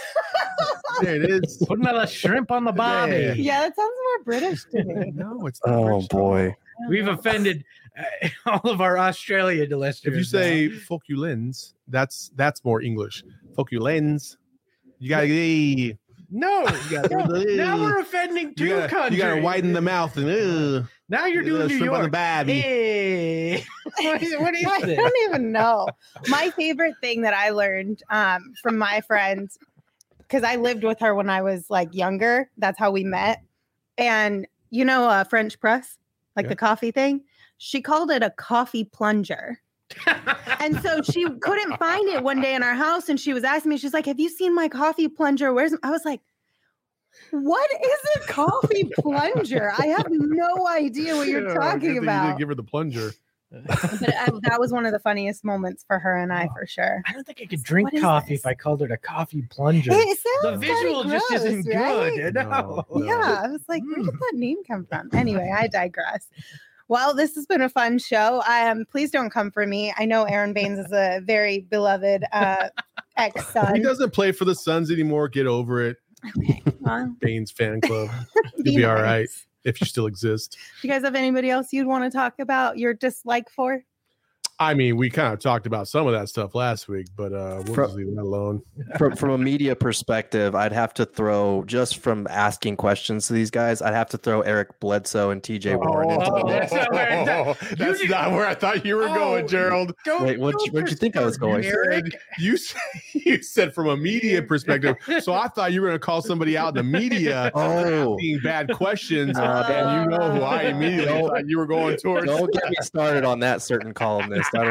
There it is. Put another shrimp on the barbie. Yeah, that sounds more British to me. No, it's not. Oh British. boy, we've offended all of our Australia listeners. If you say "fuck you, Linz," that's more English. Fuck you, Linz. You gotta get. No, now we're offending two countries. You gotta widen the mouth and now you're doing New York. On the babby. Hey. What is this? I don't even know. My favorite thing that I learned from my friend, because I lived with her when I was like younger. That's how we met. And French press, like the coffee thing. She called it a coffee plunger. And so she couldn't find it one day in our house, and she was asking me, she's like, have you seen my coffee plunger? I was like, what is a coffee plunger? I have no idea what you're talking about. You didn't give her the plunger. But that was one of the funniest moments for her and I, for sure. I don't think I could drink coffee if I called it a coffee plunger. It The sounds visual just isn't right? good. No. Yeah, I was like, where did that name come from? Anyway, I digress. Well, this has been a fun show. Please don't come for me. I know Aaron Baines is a very beloved ex-Sun. He doesn't play for the Suns anymore. Get over it. Okay. Well, Baines fan club. You'll be all right if you still exist. Do you guys have anybody else you'd want to talk about your dislike for? I mean, we kind of talked about some of that stuff last week, but we'll just leave that alone. From a media perspective, I'd have to throw, just from asking questions to these guys, I'd have to throw Eric Bledsoe and TJ Warren into the mix. That's not where I thought you were going, Gerald. Wait, where'd you think I was going? You said from a media perspective, so I thought you were going to call somebody out in the media asking bad questions, and you know who I immediately thought you were going towards. Don't get me started on that certain columnist. I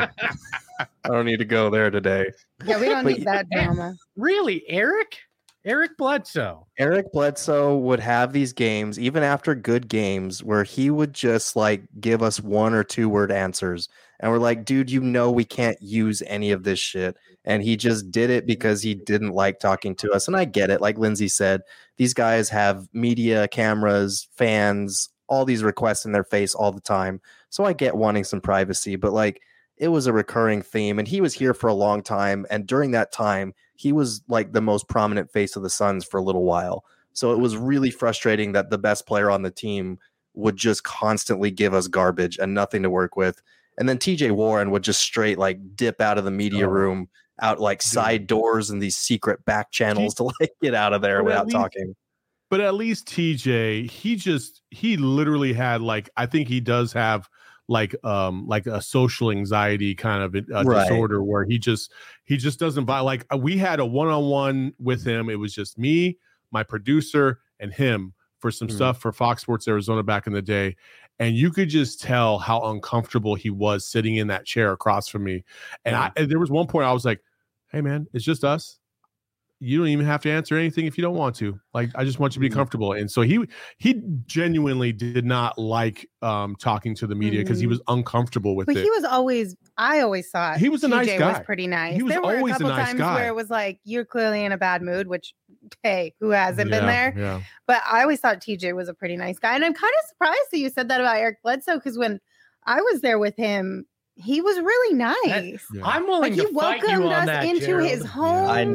don't need to go there today. Yeah, we don't need that drama. Really, Eric Bledsoe. Eric Bledsoe would have these games, even after good games, where he would just like give us 1 or 2 word answers. And we're like, dude, we can't use any of this shit. And he just did it because he didn't like talking to us. And I get it. Like Lindsay said, these guys have media, cameras, fans, all these requests in their face all the time. So I get wanting some privacy, but like it was a recurring theme, and he was here for a long time. And during that time, he was like the most prominent face of the Suns for a little while. So it was really frustrating that the best player on the team would just constantly give us garbage and nothing to work with. And then TJ Warren would just straight like dip out of the media room, out like side doors and these secret back channels to like get out of there without talking. But at least TJ, he literally had like, I think he does have like a social anxiety kind of disorder where he just doesn't buy. Like we had a one-on-one with him. It was just me, my producer, and him for some stuff for Fox Sports Arizona back in the day. And you could just tell how uncomfortable he was sitting in that chair across from me. And there was one point I was like, hey man, it's just us. You don't even have to answer anything if you don't want to. Like, I just want you to be comfortable. And so he genuinely did not like talking to the media because he was uncomfortable with it. But he was always, I always thought he was a nice guy. Was pretty nice. He was there were always a couple a nice times guy. where it was like, you're clearly in a bad mood, which pay who hasn't been there. Yeah. But I always thought TJ was a pretty nice guy. And I'm kind of surprised that you said that about Eric Bledsoe, because when I was there with him, he was really nice. I'm willing Like, to he fight you welcomed on us that, into Gerald. his home. I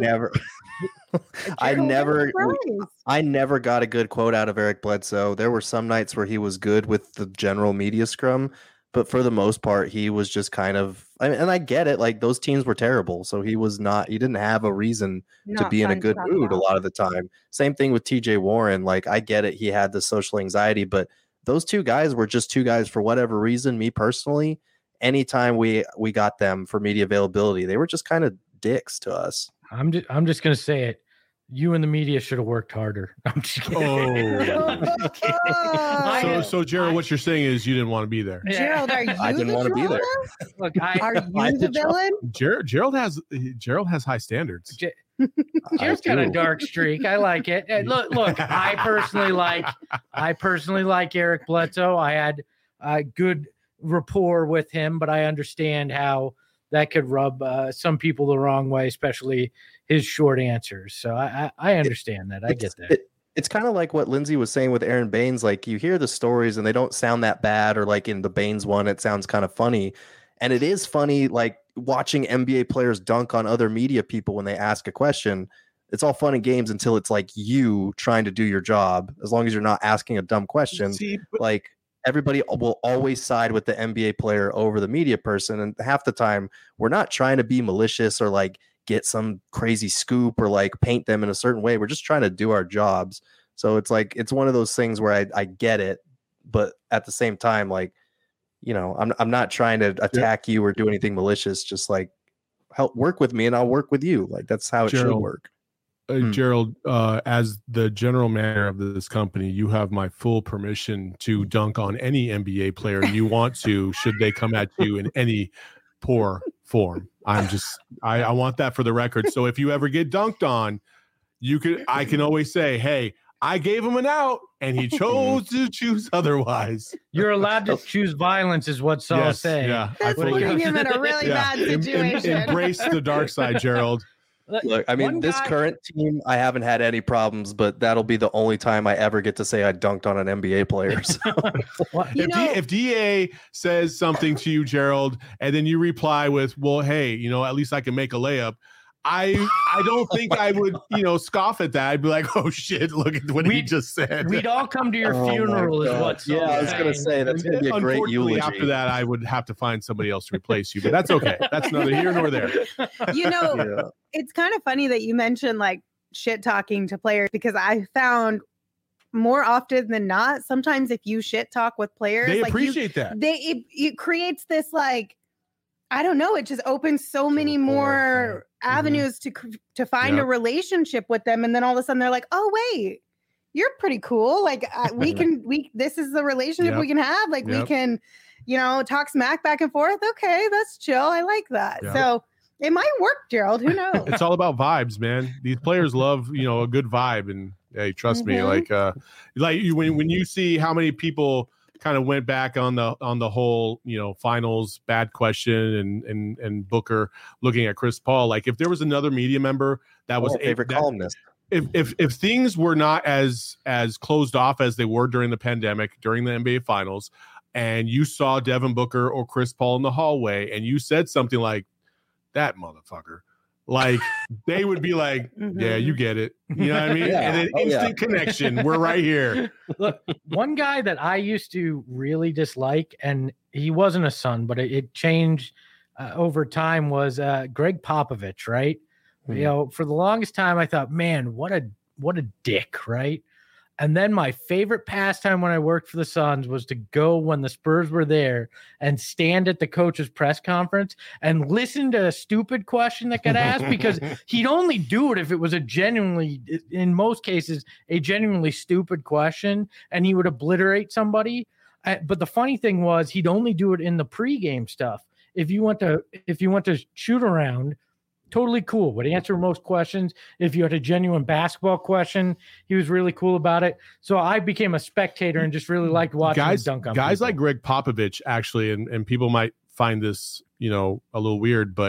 never got a good quote out of Eric Bledsoe. There were some nights where he was good with the general media scrum, but for the most part, he was just kind of, and I get it, like those teams were terrible. So he didn't have a reason to be in a good mood a lot of the time. Same thing with TJ Warren. Like, I get it. He had the social anxiety, but those two guys were just two guys for whatever reason. Me personally, anytime we got them for media availability, they were just kind of dicks to us. I'm just gonna say it. You and the media should have worked harder. I'm just kidding. So Gerald, what you're saying is you didn't want to be there. Gerald, are you I didn't want to be there. Look, Are you the villain? Gerald has high standards. Gerald's got a dark streak. I like it. And look. I personally like Eric Bledsoe. I had a good rapport with him, but I understand how that could rub some people the wrong way, especially his short answers. So I understand that. I get that. It's kind of like what Lindsay was saying with Aaron Baines. Like, you hear the stories and they don't sound that bad, or like in the Baines one, it sounds kind of funny. And it is funny, like watching NBA players dunk on other media people when they ask a question. It's all fun and games until it's like you trying to do your job. As long as you're not asking a dumb question, like everybody will always side with the NBA player over the media person. And half the time we're not trying to be malicious or like get some crazy scoop or like paint them in a certain way. We're just trying to do our jobs. So it's like, it's one of those things where I get it, but at the same time, like, you know, I'm not trying to attack you or do anything malicious. Just like, help work with me and I'll work with you. Like, that's how it should work. Gerald, as the general manager of this company, you have my full permission to dunk on any NBA player you want to, should they come at you in any poor form. I want that for the record. So if you ever get dunked on, I can always say, hey, I gave him an out and he chose to choose otherwise. You're allowed to choose violence, is what Saul's saying. Yeah. That's putting him in a really bad situation. Embrace the dark side, Gerald. Look, I mean, this current team, I haven't had any problems, but that'll be the only time I ever get to say I dunked on an NBA player. So. If DA says something to you, Gerald, and then you reply with, well, hey, you know, at least I can make a layup. I don't think I would, scoff at that. I'd be like, oh shit, look at what he just said. We'd all come to your funeral is what. Yeah, I was going to say, that's going to be a great eulogy. After that, I would have to find somebody else to replace you, but that's okay. That's neither here nor there. It's kind of funny that you mentioned like shit talking to players, because I found more often than not, sometimes if you shit talk with players, they like appreciate that. It creates this, like, I don't know, it just opens so many more avenues to find a relationship with them. And then all of a sudden they're like, oh, wait, you're pretty cool. Like this is the relationship we can have. Like we can, talk smack back and forth. Okay, that's chill. I like that. Yep. So it might work, Gerald. Who knows? It's all about vibes, man. These players love, a good vibe. And hey, trust me, when you see how many people kind of went back on the whole, finals bad question and Booker looking at Chris Paul. Like, if there was another media member that was favorite columnist, if things were not as closed off as they were during the pandemic, during the NBA finals, and you saw Devin Booker or Chris Paul in the hallway and you said something like, that motherfucker, like they would be like, yeah, you get it. You know what I mean? Yeah. And then instant connection. We're right here. Look, one guy that I used to really dislike, and he wasn't a Sun, but it changed over time, was Greg Popovich, right? Mm-hmm. For the longest time, I thought, man, what a dick, right? And then my favorite pastime when I worked for the Suns was to go when the Spurs were there and stand at the coach's press conference and listen to a stupid question that got asked, because he'd only do it if it was in most cases, a genuinely stupid question, and he would obliterate somebody. But the funny thing was, he'd only do it in the pregame stuff. If you want to shoot around, totally cool. Would answer most questions. If you had a genuine basketball question, he was really cool about it. So I became a spectator and just really liked watching him dunk on guys people. like Greg Popovich, actually, and people might find this, a little weird, but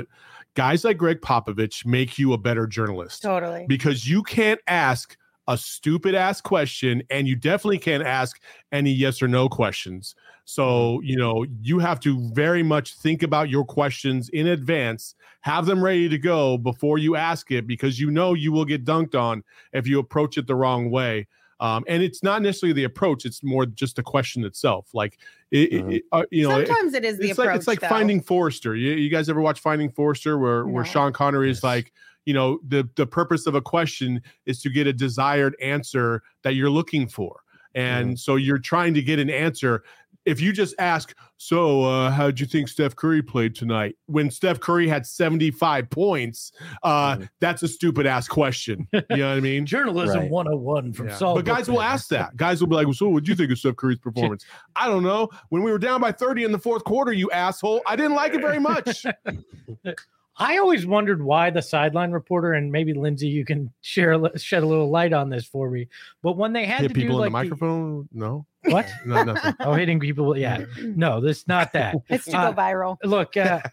guys like Greg Popovich make you a better journalist. Totally. Because you can't ask a stupid ass question, and you definitely can't ask any yes or no questions. So, you have to very much think about your questions in advance, have them ready to go before you ask it, because you will get dunked on if you approach it the wrong way. And it's not necessarily the approach; it's more just the question itself. Like, sometimes it is the approach. It's like Finding Forrester. You guys ever watch Finding Forrester, where Sean Connery is like, the purpose of a question is to get a desired answer that you're looking for, and so you're trying to get an answer. If you just ask, how'd you think Steph Curry played tonight? When Steph Curry had 75 points, that's a stupid ass question. You know what I mean? Journalism 101 from Saul. But guys will ask that. Guys will be like, so what'd you think of Steph Curry's performance? I don't know. When we were down by 30 in the fourth quarter, you asshole, I didn't like it very much. I always wondered why the sideline reporter, and maybe Lindsay, you can shed a little light on this for me. But when they had hit to people do in the microphone, no. What? No, nothing. Oh, hitting people. Yeah. No, this not that. It's to go viral. Look,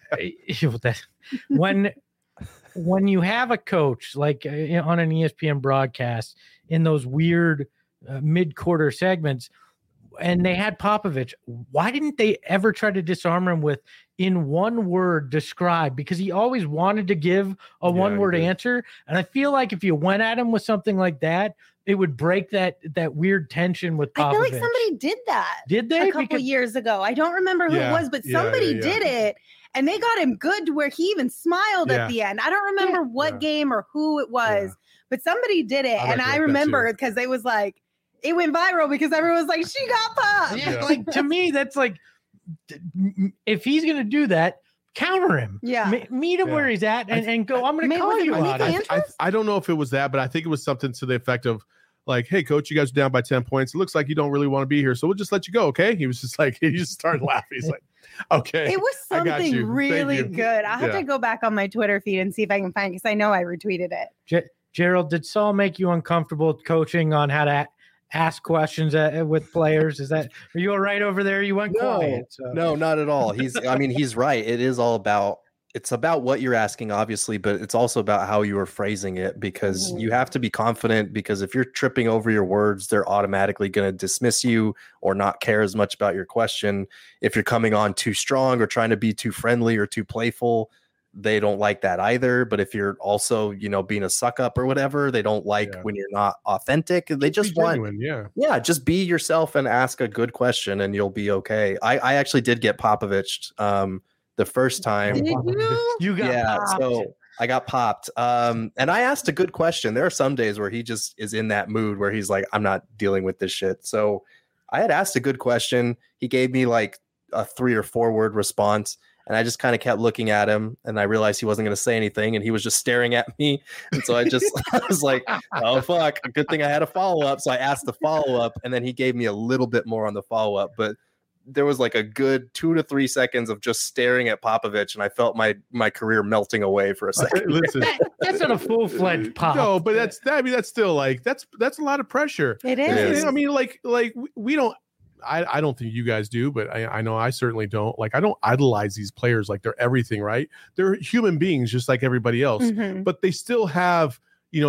when you have a coach like on an ESPN broadcast in those weird mid-quarter segments, and they had Popovich, why didn't they ever try to disarm him with, in one word, describe? Because he always wanted to give a one-word answer. And I feel like if you went at him with something like that, it would break that weird tension with Popovich. I feel like somebody did that. Did they? A couple years ago. I don't remember who it was, but somebody did it. And they got him good to where he even smiled at the end. I don't remember what game or who it was, but somebody did it. And I remember because it was like, it went viral because everyone was like, she got popped. Yeah. Like, to me, that's like, if he's going to do that, counter him. Yeah. Meet him where he's at and go, I'm going to call you out. I don't know if it was that, but I think it was something to the effect of like, hey, coach, you guys are down by 10 points. It looks like you don't really want to be here. So we'll just let you go. Okay. He was just like, he just started laughing. He's like, okay. It was something really good. I'll have to go back on my Twitter feed and see if I can find it, because I know I retweeted it. Gerald, did Saul make you uncomfortable coaching on how to ask questions with players? Are you all right over there? You went quiet. So. No, not at all. He's right. It is all about what you're asking, obviously, but it's also about how you are phrasing it, because you have to be confident, because if you're tripping over your words, they're automatically going to dismiss you or not care as much about your question. If you're coming on too strong or trying to be too friendly or too playful, they don't like that either. But if you're also, being a suck up or whatever, they don't like when you're not authentic. They just want, just be yourself and ask a good question and you'll be okay. I actually did get Popovich the first time. Did you? You got popped. So I got popped. And I asked a good question. There are some days where he just is in that mood where he's like, I'm not dealing with this shit. So I had asked a good question. He gave me like a 3 or 4 word response. And I just kind of kept looking at him, and I realized he wasn't going to say anything, and he was just staring at me. And so I was like, oh, fuck. Good thing I had a follow-up. So I asked the follow-up, and then he gave me a little bit more on the follow-up. But there was like a good 2 to 3 seconds of just staring at Popovich, and I felt my career melting away for a second. Listen, that's not a full-fledged pop. No, but that's still like, that's a lot of pressure. It is. I mean, like we don't. I don't think you guys do, but I know I certainly don't. Like, I don't idolize these players like they're everything, right? They're human beings just like everybody else, but they still have,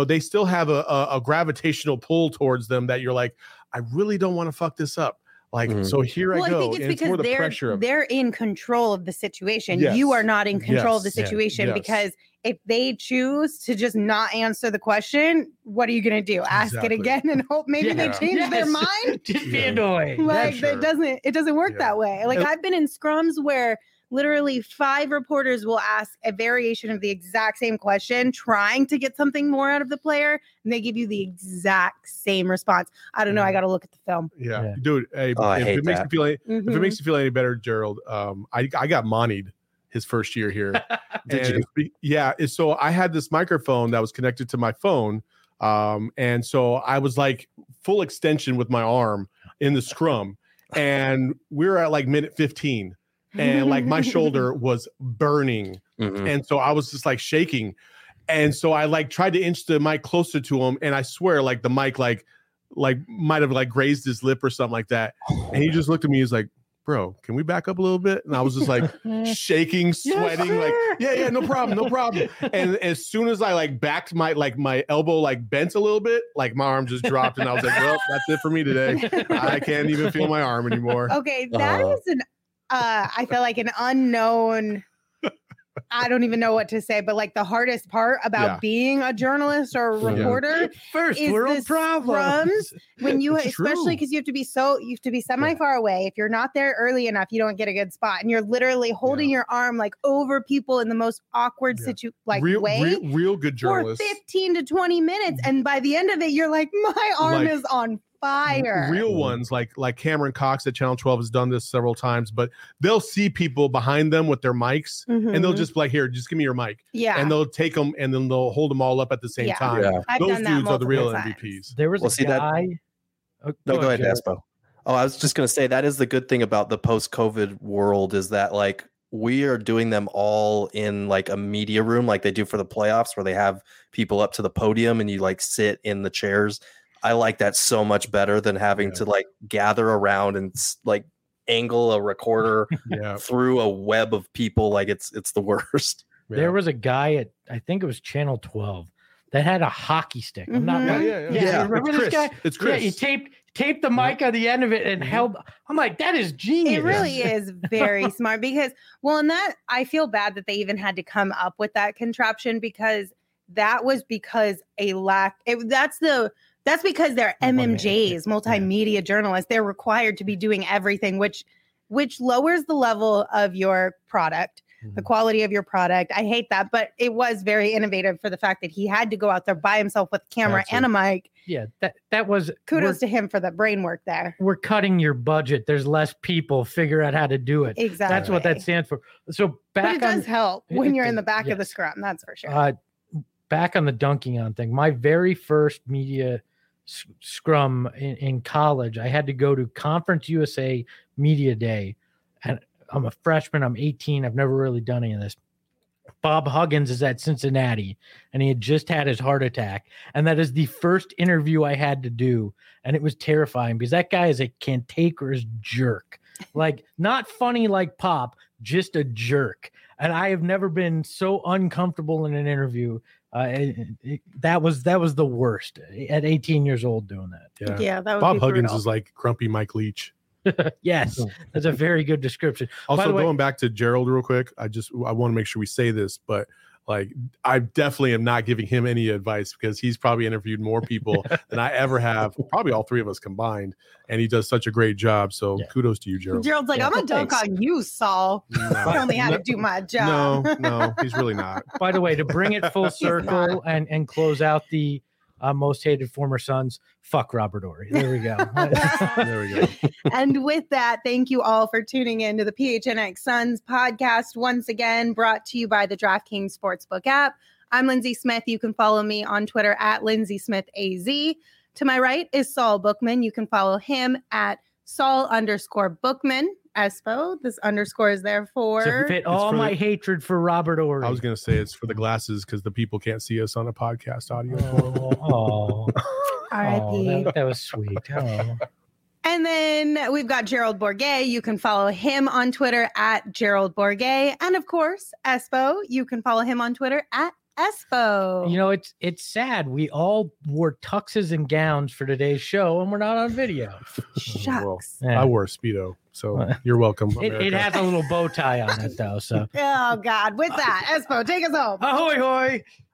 a gravitational pull towards them that you're like, I really don't want to fuck this up. Like, so here I go. I think it's because the pressure they're in control of the situation. Yes. You are not in control of the situation because if they choose to just not answer the question, what are you going to do? Ask it again and hope maybe they change their mind? Just be annoying. Like, it doesn't work that way. Like, I've been in scrums where literally 5 reporters will ask a variation of the exact same question, trying to get something more out of the player, and they give you the exact same response. I don't know. I got to look at the film. Yeah. Dude, hey, if it makes you feel any better, Gerald, I got moneyed his first year here. Did you? Yeah. So I had this microphone that was connected to my phone. And so I was like full extension with my arm in the scrum, and we were at like minute 15. And like my shoulder was burning. And so I was just like shaking. And so I like tried to inch the mic closer to him. And I swear, like the mic, like might have like grazed his lip or something like that. And he just looked at me. He's like, bro, can we back up a little bit? And I was just like shaking, sweating, like, yeah, no problem. And as soon as I like backed my elbow like bent a little bit, like my arm just dropped, and I was like, well, that's it for me today. I can't even feel my arm anymore. Okay, that is an I feel like an unknown. I don't even know what to say, but like the hardest part about being a journalist or a reporter first is world the problems. when you, It's especially because you have to be semi far away. If you're not there early enough, you don't get a good spot, and you're literally holding your arm like over people in the most awkward real good journalists for 15 to 20 minutes, and by the end of it, you're like, my arm is on fire. Real ones like Cameron Cox at Channel 12 has done this several times, but they'll see people behind them with their mics and they'll just be like, here, just give me your mic. Yeah. And they'll take them and then they'll hold them all up at the same time. Yeah. Those dudes are the real MVPs. There was a guy. Go ahead, Espo. Oh, I was just going to say that is the good thing about the post-COVID world is that like we are doing them all in like a media room like they do for the playoffs where they have people up to the podium and you like sit in the chairs. I like that so much better than having to like gather around and like angle a recorder through a web of people. Like it's the worst. There was a guy at, I think it was Channel 12 that had a hockey stick. I'm not remember this guy? It's Chris. Yeah, he taped the mic on the end of it and held. I'm like, that is genius. It really is very smart because, and that I feel bad that they even had to come up with that contraption because that was because that's because they're MMJs, multimedia journalists. They're required to be doing everything, which lowers the level of your product, the quality of your product. I hate that, but it was very innovative for the fact that he had to go out there by himself with a camera and a mic. Yeah, that was kudos to him for the brain work there. We're cutting your budget. There's less people. Figure out how to do it. Exactly. That's what that stands for. So but it does help when you're in the back of the scrum. That's for sure. Back on the dunking on thing. My very first media scrum in college, I had to go to Conference USA Media Day, and I'm a freshman. I'm 18. I've never really done any of this. Bob Huggins is at Cincinnati, and he had just had his heart attack, and that is the first interview I had to do, and it was terrifying because that guy is a cantankerous jerk, like not funny like Pop, just a jerk. And I have never been so uncomfortable in an interview. That was the worst at 18 years old doing that. Yeah, that was Bob Huggins is like grumpy Mike Leach. Yes, that's a very good description. Also, going back to Gerald real quick, I want to make sure we say this, but like I definitely am not giving him any advice because he's probably interviewed more people than I ever have, probably all three of us combined, and he does such a great job. So kudos to you, Gerald. Gerald's like, I'm gonna dunk on you, Saul. I only had to do my job. No, he's really not. By the way, to bring it full circle and close out the most hated former Suns, fuck Robert Horry. There we go. There we go. And with that, thank you all for tuning in to the PHNX Suns podcast, once again brought to you by the DraftKings Sportsbook app. I'm Lindsay Smith. You can follow me on Twitter at LindsaySmithAZ. To my right is Saul Bookman. You can follow him at Saul_Bookman. Espo, this underscore is there for to fit all my hatred for Robert Horry. I was going to say it's for the glasses because the people can't see us on a podcast audio. R.I.P. That was sweet. Oh. And then we've got Gerald Bourguet. You can follow him on Twitter at Gerald Bourguet. And of course, Espo, you can follow him on Twitter at Espo. You know, it's sad. We all wore tuxes and gowns for today's show, and we're not on video. Shucks. Well, I wore a Speedo, so you're welcome. It has a little bow tie on it, though. So. Oh, God. With that, Espo, take us home. Ahoy, hoy.